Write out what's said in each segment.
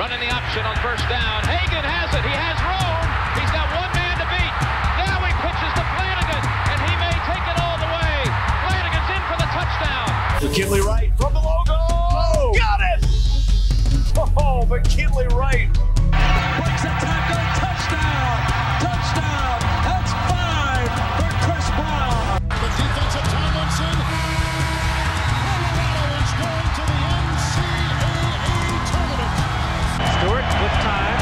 Running the option on first down. Hagan has it. He has room. He's got one man to beat. Now he pitches to Flanagan, and he may take it all the way. Flanagan's in for the touchdown. McKinley Wright from the logo. Oh, got it! Oh, McKinley Wright. Breaks a tackle. Touchdown. Touchdown. That's 5 for Chris Brown. The defensive Tomlinson. Colorado is going to the NCAA tournament. Stewart with time.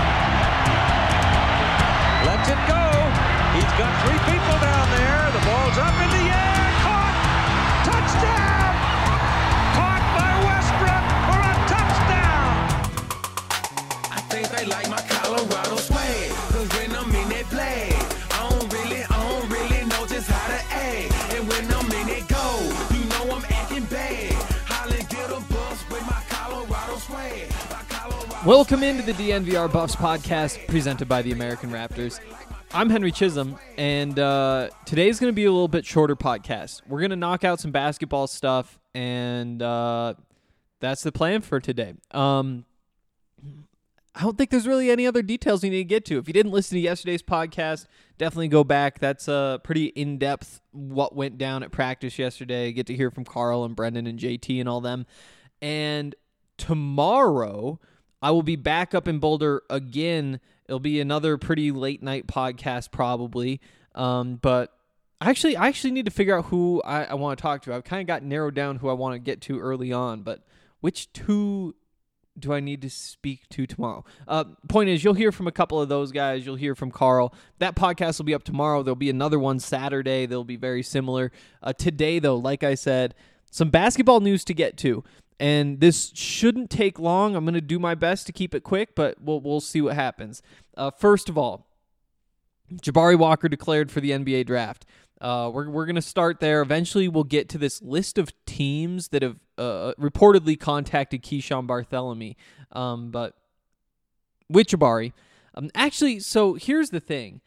Lets it go. He's got 3 people down there. The ball's up in the air. Caught. Touchdown. Caught by Westbrook for a touchdown. I think they like my Colorado swag. Cause when I'm in that play, I don't really know just how to act. And when I'm in it go, you know I'm acting bad. Holly get a bus with my Colorado swag. Welcome into the DNVR Buffs podcast presented by the American Raptors. I'm Henry Chisholm, and today's going to be a little bit shorter podcast. We're going to knock out some basketball stuff, and that's the plan for today. I don't think there's really any other details you need to get to. If you didn't listen to yesterday's podcast, definitely go back. That's pretty in-depth what went down at practice yesterday. Get to hear from Carl and Brendan and JT and all them. And tomorrow, I will be back up in Boulder again. It'll be another pretty late night podcast probably. But I actually need to figure out who I want to talk to. I've kind of got narrowed down who I want to get to early on, but which two do I need to speak to tomorrow? Point is, you'll hear from a couple of those guys. You'll hear from Carl. That podcast will be up tomorrow. There'll be another one Saturday. They'll be very similar. Today, though, like I said, some basketball news to get to. And this shouldn't take long. I'm going to do my best to keep it quick, but we'll see what happens. First of all, Jabari Walker declared for the NBA draft. We're going to start there. Eventually, we'll get to this list of teams that have reportedly contacted Keyshawn Bartholomew. But with Jabari, actually, so here's the thing.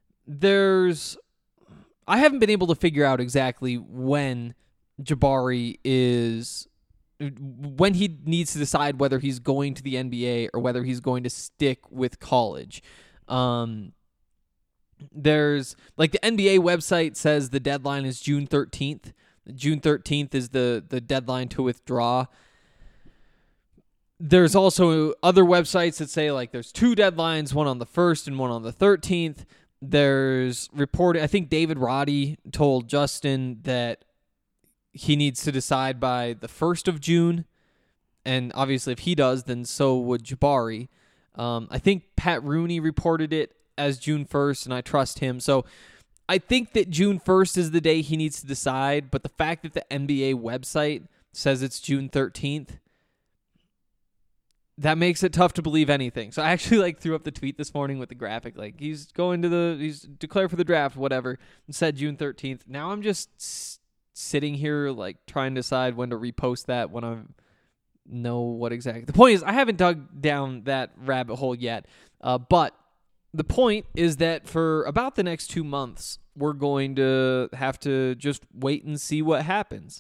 I haven't been able to figure out exactly when Jabari when he needs to decide whether he's going to the NBA or whether he's going to stick with college. There's like the NBA website says the deadline is June 13th. June 13th is the deadline to withdraw. There's also other websites that say like there's 2 deadlines, one on the 1st and one on the 13th. There's reported, I think David Roddy told Justin that he needs to decide by the 1st of June. And obviously if he does, then so would Jabari. I think Pat Rooney reported it as June 1st, and I trust him. So I think that June 1st is the day he needs to decide, but the fact that the NBA website says it's June 13th, that makes it tough to believe anything. So I actually threw up the tweet this morning with the graphic, like he's declared for the draft, whatever, and said June 13th. Now I'm just sitting here trying to decide when to repost that when I know what exactly. The point is I haven't dug down that rabbit hole yet, but the point is that for about the next 2 months, we're going to have to just wait and see what happens.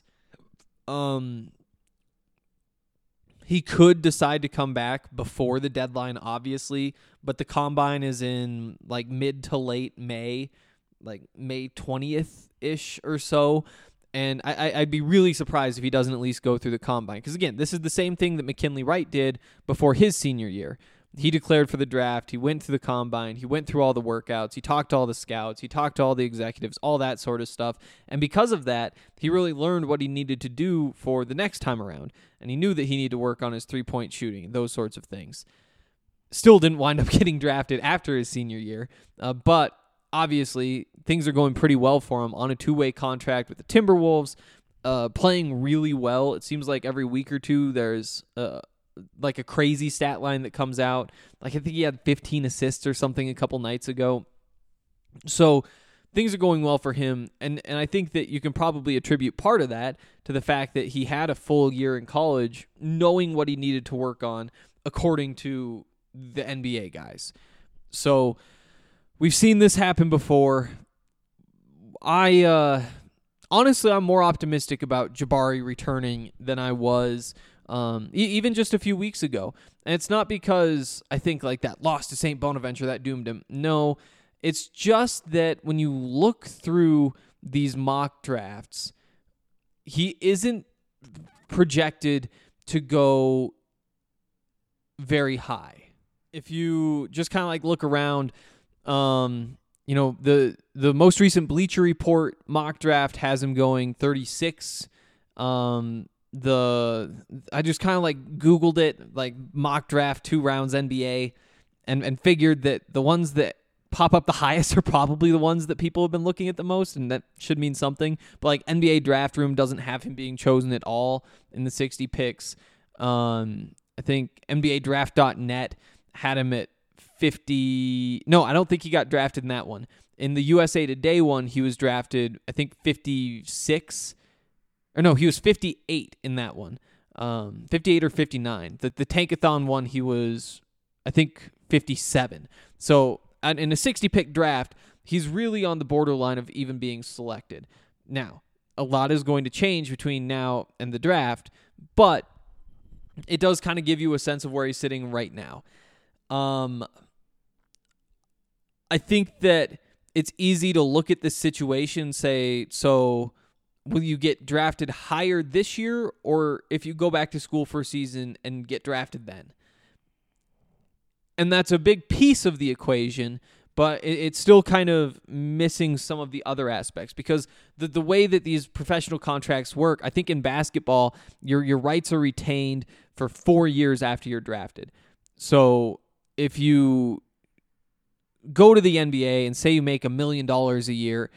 He could decide to come back before the deadline, obviously, but the combine is in mid to late May, May 20th-ish or so. And I'd be really surprised if he doesn't at least go through the combine. Because, again, this is the same thing that McKinley Wright did before his senior year. He declared for the draft. He went through the combine. He went through all the workouts. He talked to all the scouts. He talked to all the executives, all that sort of stuff. And because of that, he really learned what he needed to do for the next time around. And he knew that he needed to work on his three-point shooting, those sorts of things. Still didn't wind up getting drafted after his senior year. But obviously, things are going pretty well for him on a 2-way contract with the Timberwolves, playing really well. It seems like every week or two there's a crazy stat line that comes out. I think he had 15 assists or something a couple nights ago. So things are going well for him, and I think that you can probably attribute part of that to the fact that he had a full year in college knowing what he needed to work on according to the NBA guys. So we've seen this happen before. Honestly, I'm more optimistic about Jabari returning than I was even just a few weeks ago. And it's not because I think like that loss to St. Bonaventure that doomed him. No, it's just that when you look through these mock drafts, he isn't projected to go very high. If you just kind of like look around, the most recent Bleacher Report mock draft has him going 36. I just kind of like Googled it, like mock draft 2 rounds NBA, and figured that the ones that pop up the highest are probably the ones that people have been looking at the most, and that should mean something. But like NBA Draft Room doesn't have him being chosen at all in the 60 picks. I think NBADraft.net had him at 50. No, I don't think he got drafted in that one. In the USA Today one, he was drafted, I think, 56. Or no, he was 58 in that one. 58 or 59. The Tankathon one, he was, I think, 57. So in a 60-pick draft, he's really on the borderline of even being selected. Now, a lot is going to change between now and the draft, but it does kind of give you a sense of where he's sitting right now. I think that it's easy to look at this situation and say, so will you get drafted higher this year, or if you go back to school for a season and get drafted then? And that's a big piece of the equation, but it's still kind of missing some of the other aspects, because the way that these professional contracts work, I think in basketball, your rights are retained for 4 years after you're drafted. So if you go to the NBA and say you make $1 million a year,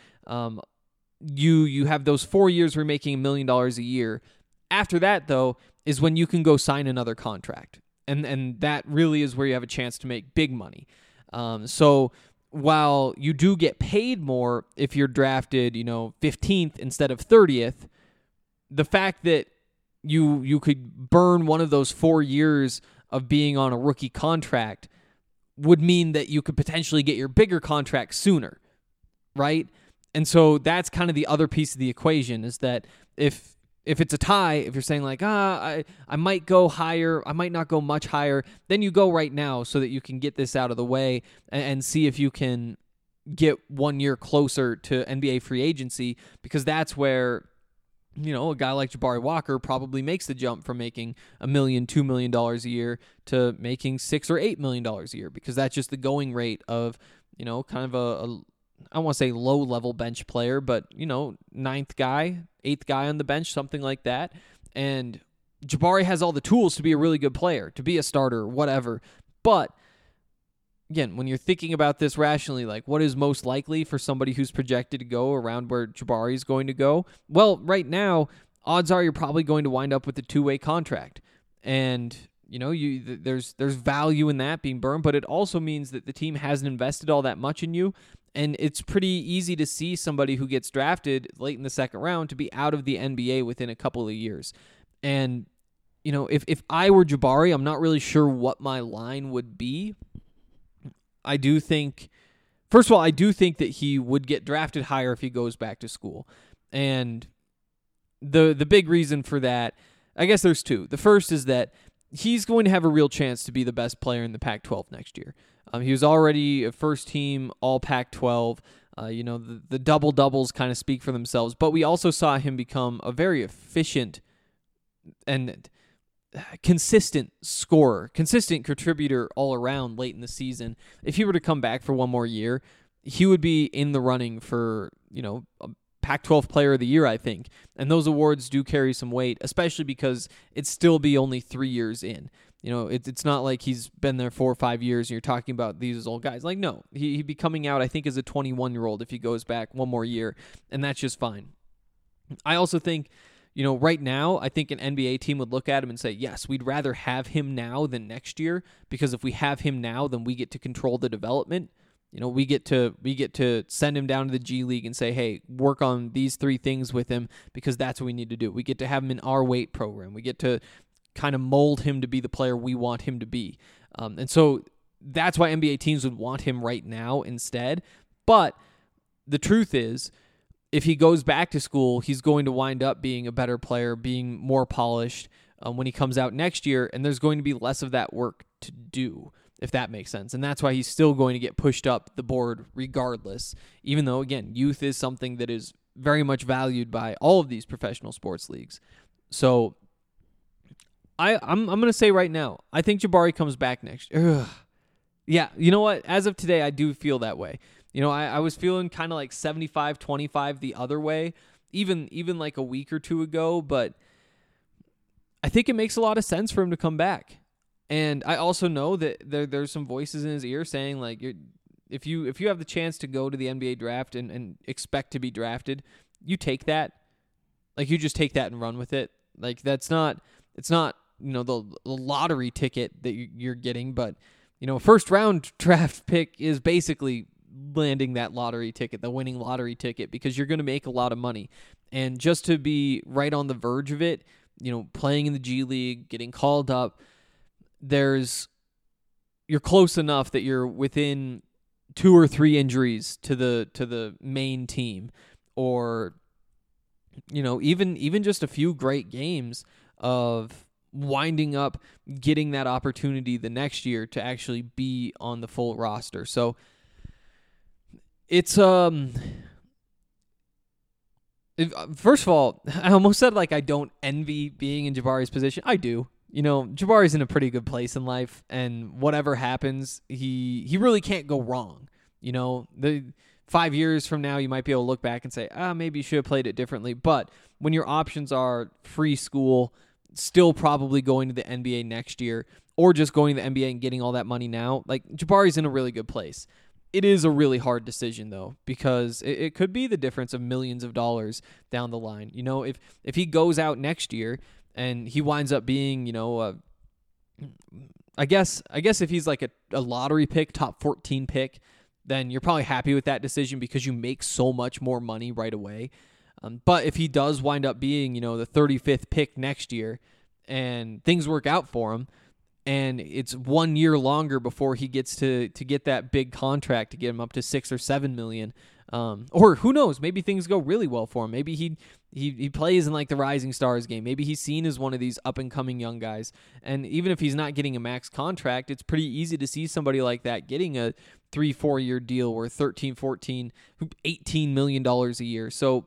you have those 4 years where you're making $1 million a year. After that, though, is when you can go sign another contract. And that really is where you have a chance to make big money. So while you do get paid more if you're drafted, 15th instead of 30th, the fact that you could burn one of those 4 years of being on a rookie contract would mean that you could potentially get your bigger contract sooner, right? And so that's kind of the other piece of the equation, is that if it's a tie, if you're saying like, I might go higher, I might not go much higher, then you go right now so that you can get this out of the way and see if you can get 1 year closer to NBA free agency, because that's where, a guy like Jabari Walker probably makes the jump from making $1 million, $2 million a year to making $6 or $8 million a year, because that's just the going rate of, kind of a I don't want to say low-level bench player, but, 9th guy, 8th guy on the bench, something like that. And Jabari has all the tools to be a really good player, to be a starter, whatever. But, again, when you're thinking about this rationally, like what is most likely for somebody who's projected to go around where Jabari is going to go? Well, right now, odds are you're probably going to wind up with a 2-way contract. And there's value in that being burned, but it also means that the team hasn't invested all that much in you. And it's pretty easy to see somebody who gets drafted late in the second round to be out of the NBA within a couple of years. And, if I were Jabari, I'm not really sure what my line would be. I do think that he would get drafted higher if he goes back to school. And the big reason for that, I guess there's two. The first is that he's going to have a real chance to be the best player in the Pac-12 next year. He was already a first-team All-Pac-12. The double-doubles kind of speak for themselves. But we also saw him become a very efficient and consistent scorer, consistent contributor all around late in the season. If he were to come back for one more year, he would be in the running for, a Pac-12 Player of the Year, I think. And those awards do carry some weight, especially because it'd still be only 3 years in. It's not like he's been there 4 or 5 years and you're talking about these as old guys. Like, no, he'd be coming out, I think, as a 21-year-old if he goes back one more year, and that's just fine. I also think, right now, I think an NBA team would look at him and say, yes, we'd rather have him now than next year, because if we have him now, then we get to control the development. We get to send him down to the G League and say, hey, work on these 3 things with him, because that's what we need to do. We get to have him in our weight program. We get to kind of mold him to be the player we want him to be. And so that's why NBA teams would want him right now instead. But the truth is, if he goes back to school, he's going to wind up being a better player, being more polished, when he comes out next year, and there's going to be less of that work to do, if that makes sense. And that's why he's still going to get pushed up the board regardless, even though, again, youth is something that is very much valued by all of these professional sports leagues. So I'm going to say right now, I think Jabari comes back next year. Yeah, you know what? As of today, I do feel that way. You know, I was feeling kind of like 75-25 the other way, even like a week or two ago, but I think it makes a lot of sense for him to come back. And I also know that there's some voices in his ear saying, like, if you have the chance to go to the NBA draft and expect to be drafted, you take that. Like, you just take that and run with it. Like, it's not, you know, the lottery ticket that you're getting, but, you know, a first round draft pick is basically landing that lottery ticket, the winning lottery ticket, because you're going to make a lot of money. And just to be right on the verge of it, you know, playing in the G League, getting called up, you're close enough that you're within 2 or 3 injuries to the main team, or, you know, even just a few great games of winding up getting that opportunity the next year to actually be on the full roster. So it's first of all, I almost said like I don't envy being in Jabari's position. I do. You know, Jabari's in a pretty good place in life, and whatever happens, he really can't go wrong. You know, the 5 years from now, you might be able to look back and say, maybe you should have played it differently. But when your options are free school, still probably going to the NBA next year, or just going to the NBA and getting all that money now, like, Jabari's in a really good place. It is a really hard decision, though, because it could be the difference of millions of dollars down the line. You know, if he goes out next year and he winds up being, you know, I guess if he's like a lottery pick, top 14 pick, then you're probably happy with that decision because you make so much more money right away. But if he does wind up being, you know, the 35th pick next year and things work out for him, and it's 1 year longer before he gets to get that big contract to get him up to $6 or $7 million, or who knows, maybe things go really well for him. Maybe he plays in like the Rising Stars game. Maybe he's seen as one of these up and coming young guys. And even if he's not getting a max contract, it's pretty easy to see somebody like that getting a 3-4 year deal worth $13, $14, $18 million a year. So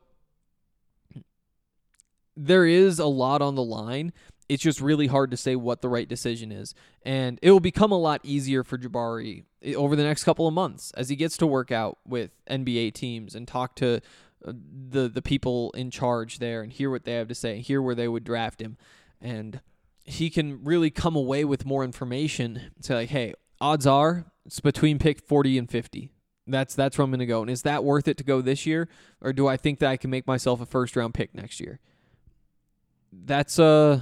there is a lot on the line. It's just really hard to say what the right decision is. And it will become a lot easier for Jabari over the next couple of months as he gets to work out with NBA teams and talk to the people in charge there and hear what they have to say, hear where they would draft him. And he can really come away with more information and say, like, hey, odds are it's between pick 40 and 50. That's where I'm going to go. And is that worth it to go this year? Or do I think that I can make myself a first-round pick next year? That's a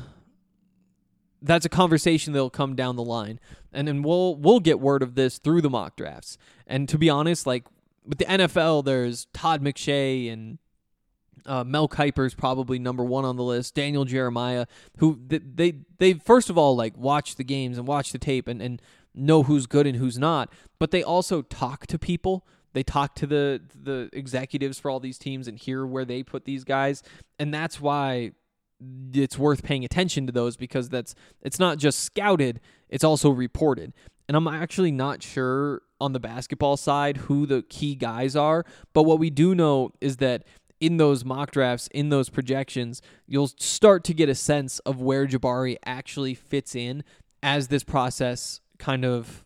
conversation that'll come down the line, and then we'll get word of this through the mock drafts. And to be honest, like with the NFL, there's Todd McShay and Mel Kiper's probably number one on the list. Daniel Jeremiah, who they first of all like watch the games and watch the tape and know who's good and who's not, but they also talk to people. They talk to the executives for all these teams and hear where they put these guys, and that's why it's worth paying attention to those, because it's not just scouted, it's also reported. And I'm actually not sure on the basketball side who the key guys are, but what we do know is that in those mock drafts, in those projections, you'll start to get a sense of where Jabari actually fits in as this process kind of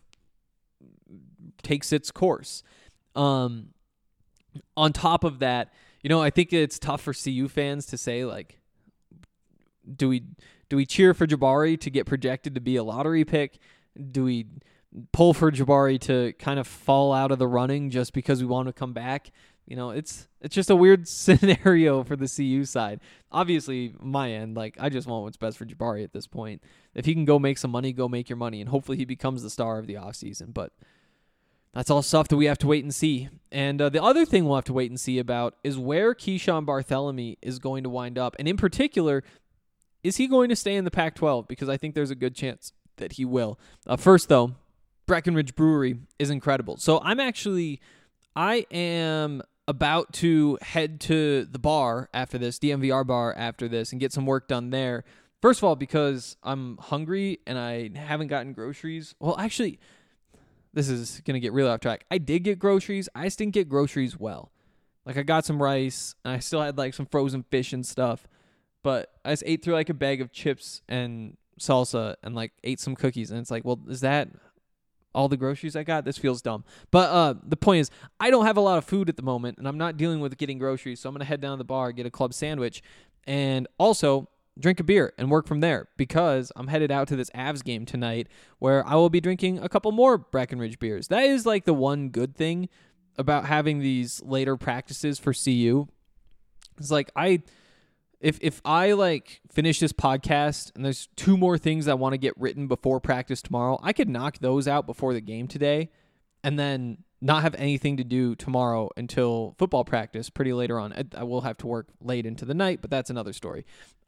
takes its course. On top of that, you know, I think it's tough for CU fans to say, like, do we cheer for Jabari to get projected to be a lottery pick? Do we pull for Jabari to kind of fall out of the running just because we want to come back? You know, it's just a weird scenario for the CU side. Obviously, my end, like, I just want what's best for Jabari at this point. If he can go make some money, go make your money, and hopefully he becomes the star of the offseason. But that's all stuff that we have to wait and see. And the other thing we'll have to wait and see about is where Keyshawn Barthelemy is going to wind up. And in particular, is he going to stay in the Pac-12? Because I think there's a good chance that he will. First, though, Breckenridge Brewery is incredible. So I am about to head to the bar after this, DMVR bar after this, and get some work done there. First of all, because I'm hungry and I haven't gotten groceries. Well, actually, this is going to get really off track. I did get groceries. I just didn't get groceries well. Like, I got some rice, and I still had, like, some frozen fish and stuff. But I just ate through, like, a bag of chips and salsa and, like, ate some cookies. And it's like, well, is that all the groceries I got? This feels dumb. But the point is, I don't have a lot of food at the moment, and I'm not dealing with getting groceries. So I'm going to head down to the bar, get a club sandwich, and also drink a beer and work from there, because I'm headed out to this Avs game tonight where I will be drinking a couple more Breckenridge beers. That is like the one good thing about having these later practices for CU. It's like if I like finish this podcast and there's 2 more things I want to get written before practice tomorrow, I could knock those out before the game today and then not have anything to do tomorrow until football practice pretty later on. I will have to work late into the night, but that's another story.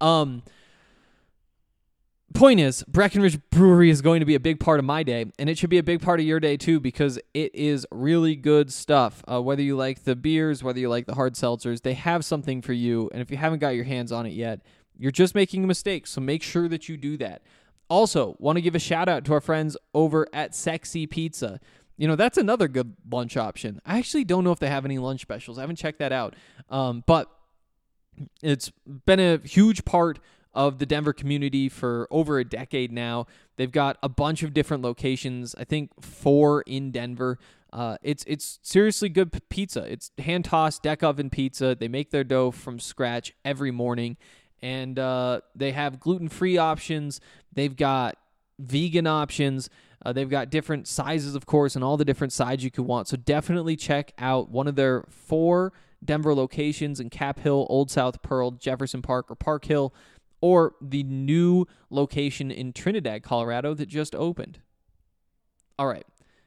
Point is, Breckenridge Brewery is going to be a big part of my day, and it should be a big part of your day too, because it is really good stuff. Whether you like the beers, whether you like the hard seltzers, they have something for you, and if you haven't got your hands on it yet, you're just making a mistake, so make sure that you do that. Also, want to give a shout out to our friends over at Sexy Pizza. You know, that's another good lunch option. I actually don't know if they have any lunch specials. I haven't checked that out. But it's been a huge part of the Denver community for over a decade now. They've got a bunch of different locations, I think 4 in Denver. It's seriously good pizza. It's hand-tossed deck oven pizza. They make their dough from scratch every morning. And they have gluten-free options. They've got vegan options. They've got different sizes, of course, and all the different sides you could want. So definitely check out one of their 4 Denver locations in Cap Hill, Old South Pearl, Jefferson Park, or Park Hill, or the new location in Trinidad, Colorado that just opened. All right.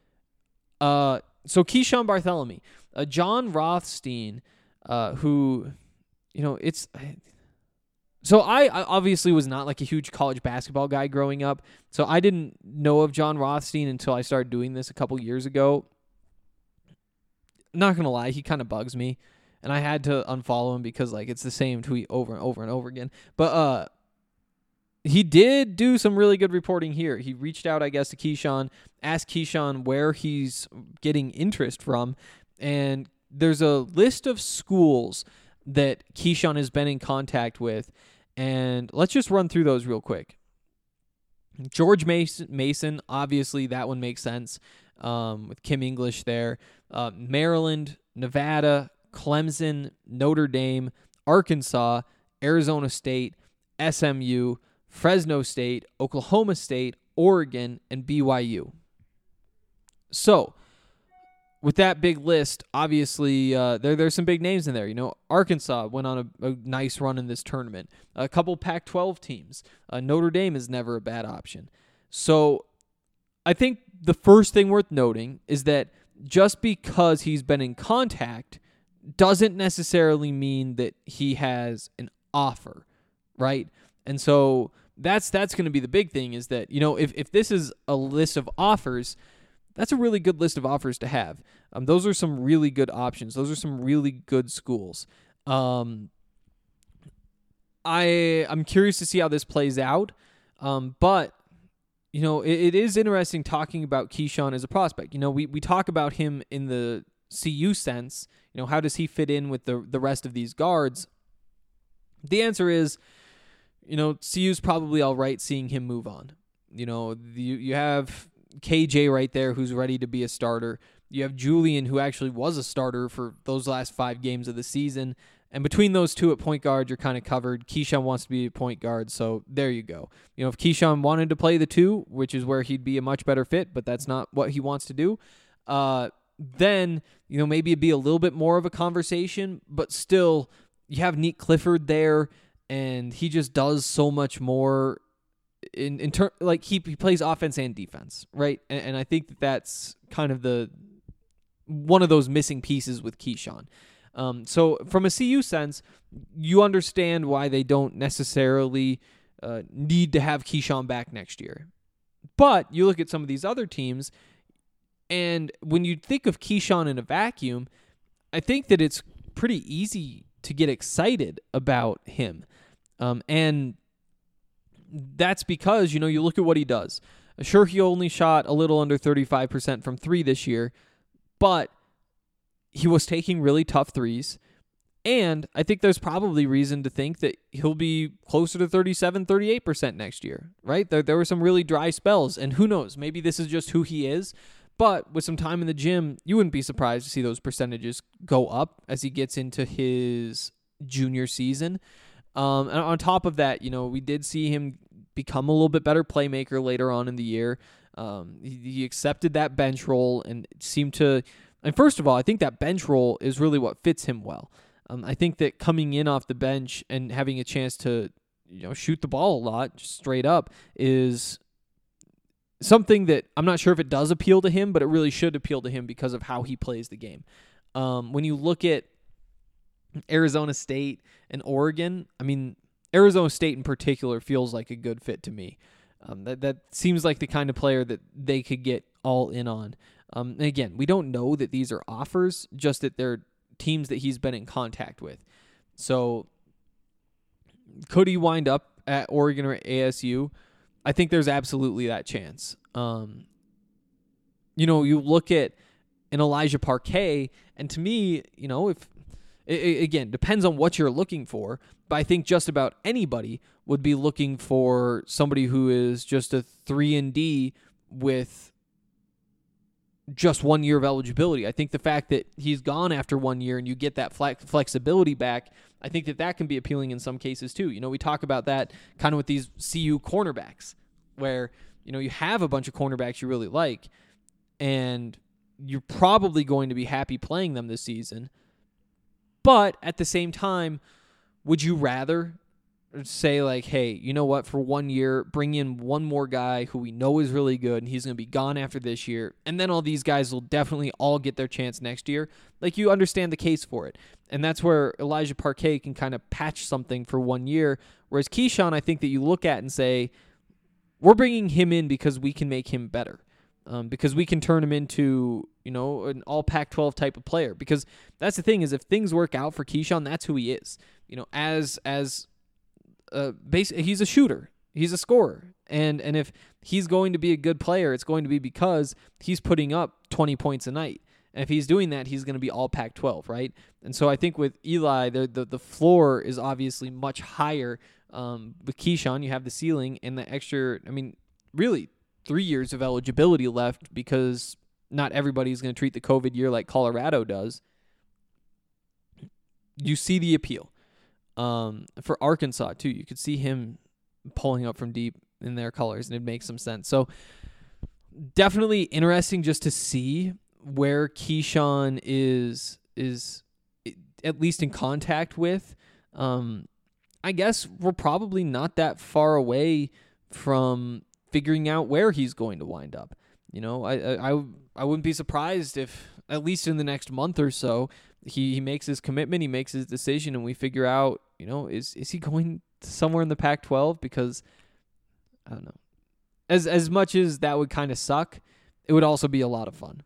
So Keyshawn Bartholomew, John Rothstein, who, you know, it's... So I obviously was not like a huge college basketball guy growing up, so I didn't know of John Rothstein until I started doing this a couple years ago. Not going to lie, he kind of bugs me, and I had to unfollow him because like it's the same tweet over and over and over again. But he did do some really good reporting here. He reached out, I guess, to Keyshawn, asked Keyshawn where he's getting interest from, and there's a list of schools that Keyshawn has been in contact with, and let's just run through those real quick. George Mason, obviously that one makes sense with Kim English there. Maryland, Nevada, Clemson, Notre Dame, Arkansas, Arizona State, SMU, Fresno State, Oklahoma State, Oregon, and BYU. So, with that big list, obviously, there's some big names in there. You know, Arkansas went on a nice run in this tournament. A couple Pac-12 teams. Notre Dame is never a bad option. So I think the first thing worth noting is that just because he's been in contact doesn't necessarily mean that he has an offer, right? And so that's going to be the big thing, is that, you know, if this is a list of offers, that's a really good list of offers to have. Those are some really good options. Those are some really good schools. I'm curious to see how this plays out. But, you know, it is interesting talking about Keyshawn as a prospect. You know, we talk about him in the CU sense. You know, how does he fit in with the rest of these guards? The answer is, you know, CU's probably all right seeing him move on. You know, you have KJ right there who's ready to be a starter. You have Julian, who actually was a starter for those last 5 games of the season. And between those two at point guard, you're kind of covered. Keyshawn wants to be a point guard, so there you go. You know, if Keyshawn wanted to play the 2, which is where he'd be a much better fit, but that's not what he wants to do, then, you know, maybe it'd be a little bit more of a conversation, but still, you have Nick Clifford there, and he just does so much more in like he plays offense and defense, right? And I think that's kind of one of those missing pieces with Keyshawn. So from a CU sense, you understand why they don't necessarily need to have Keyshawn back next year. But you look at some of these other teams, and when you think of Keyshawn in a vacuum, I think that it's pretty easy to get excited about him. And that's because, you look at what he does. Sure, he only shot a little under 35% from three this year, but he was taking really tough threes. And I think there's probably reason to think that he'll be closer to 37, 38% next year, right? There were some really dry spells, and who knows, maybe this is just who he is. But with some time in the gym, you wouldn't be surprised to see those percentages go up as he gets into his junior season. And on top of that, we did see him become a little bit better playmaker later on in the year. He accepted that bench role and seemed to... And first of all, I think that bench role is really what fits him well. I think that coming in off the bench and having a chance to, shoot the ball a lot, just straight up, is something that I'm not sure if it does appeal to him, but it really should appeal to him because of how he plays the game. When you look at Arizona State and Oregon, Arizona State in particular feels like a good fit to me. That seems like the kind of player that they could get all in on. And again, we don't know that these are offers, just that they're teams that he's been in contact with. So could he wind up at Oregon or ASU? I think there's absolutely that chance. You look at an Elijah Parquet, and to me, if again, depends on what you're looking for, but I think just about anybody would be looking for somebody who is just a 3-and-D with just 1 year of eligibility. I think the fact that he's gone after 1 year and you get that flexibility back, I think that can be appealing in some cases too. We talk about that kind of with these CU cornerbacks where, you have a bunch of cornerbacks you really like and you're probably going to be happy playing them this season. But at the same time, would you rather say like, hey, you know what, for 1 year, bring in one more guy who we know is really good and he's going to be gone after this year, and then all these guys will definitely all get their chance next year? Like, you understand the case for it. And that's where Elijah Parquet can kind of patch something for 1 year, whereas Keyshawn, I think that you look at and say, we're bringing him in because we can make him better, because we can turn him into, an all Pac-12 type of player. Because that's the thing, is if things work out for Keyshawn, that's who he is. He's a shooter. He's a scorer. And if he's going to be a good player, it's going to be because he's putting up 20 points a night. And if he's doing that, he's going to be all Pac-12, right? And so I think with Eli, the floor is obviously much higher. With Keyshawn, you have the ceiling and the extra, really 3 years of eligibility left, because not everybody's going to treat the COVID year like Colorado does. You see the appeal. For Arkansas too, you could see him pulling up from deep in their colors, and it makes some sense. So definitely interesting just to see where Keyshawn is at least in contact with. I guess we're probably not that far away from figuring out where he's going to wind up. I wouldn't be surprised if at least in the next month or so he makes his commitment, he makes his decision, and we figure out, is he going somewhere in the Pac-12? Because I don't know. As much as that would kind of suck, it would also be a lot of fun.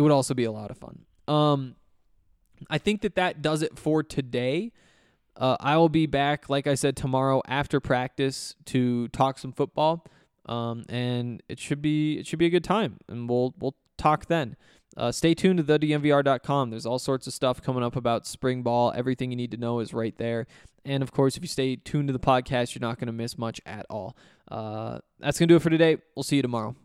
I think that does it for today. I will be back, like I said, tomorrow after practice to talk some football, and it should be a good time, and we'll talk then. Stay tuned to thednvr.com. There's all sorts of stuff coming up about spring ball. Everything you need to know is right there. And, of course, if you stay tuned to the podcast, you're not going to miss much at all. That's going to do it for today. We'll see you tomorrow.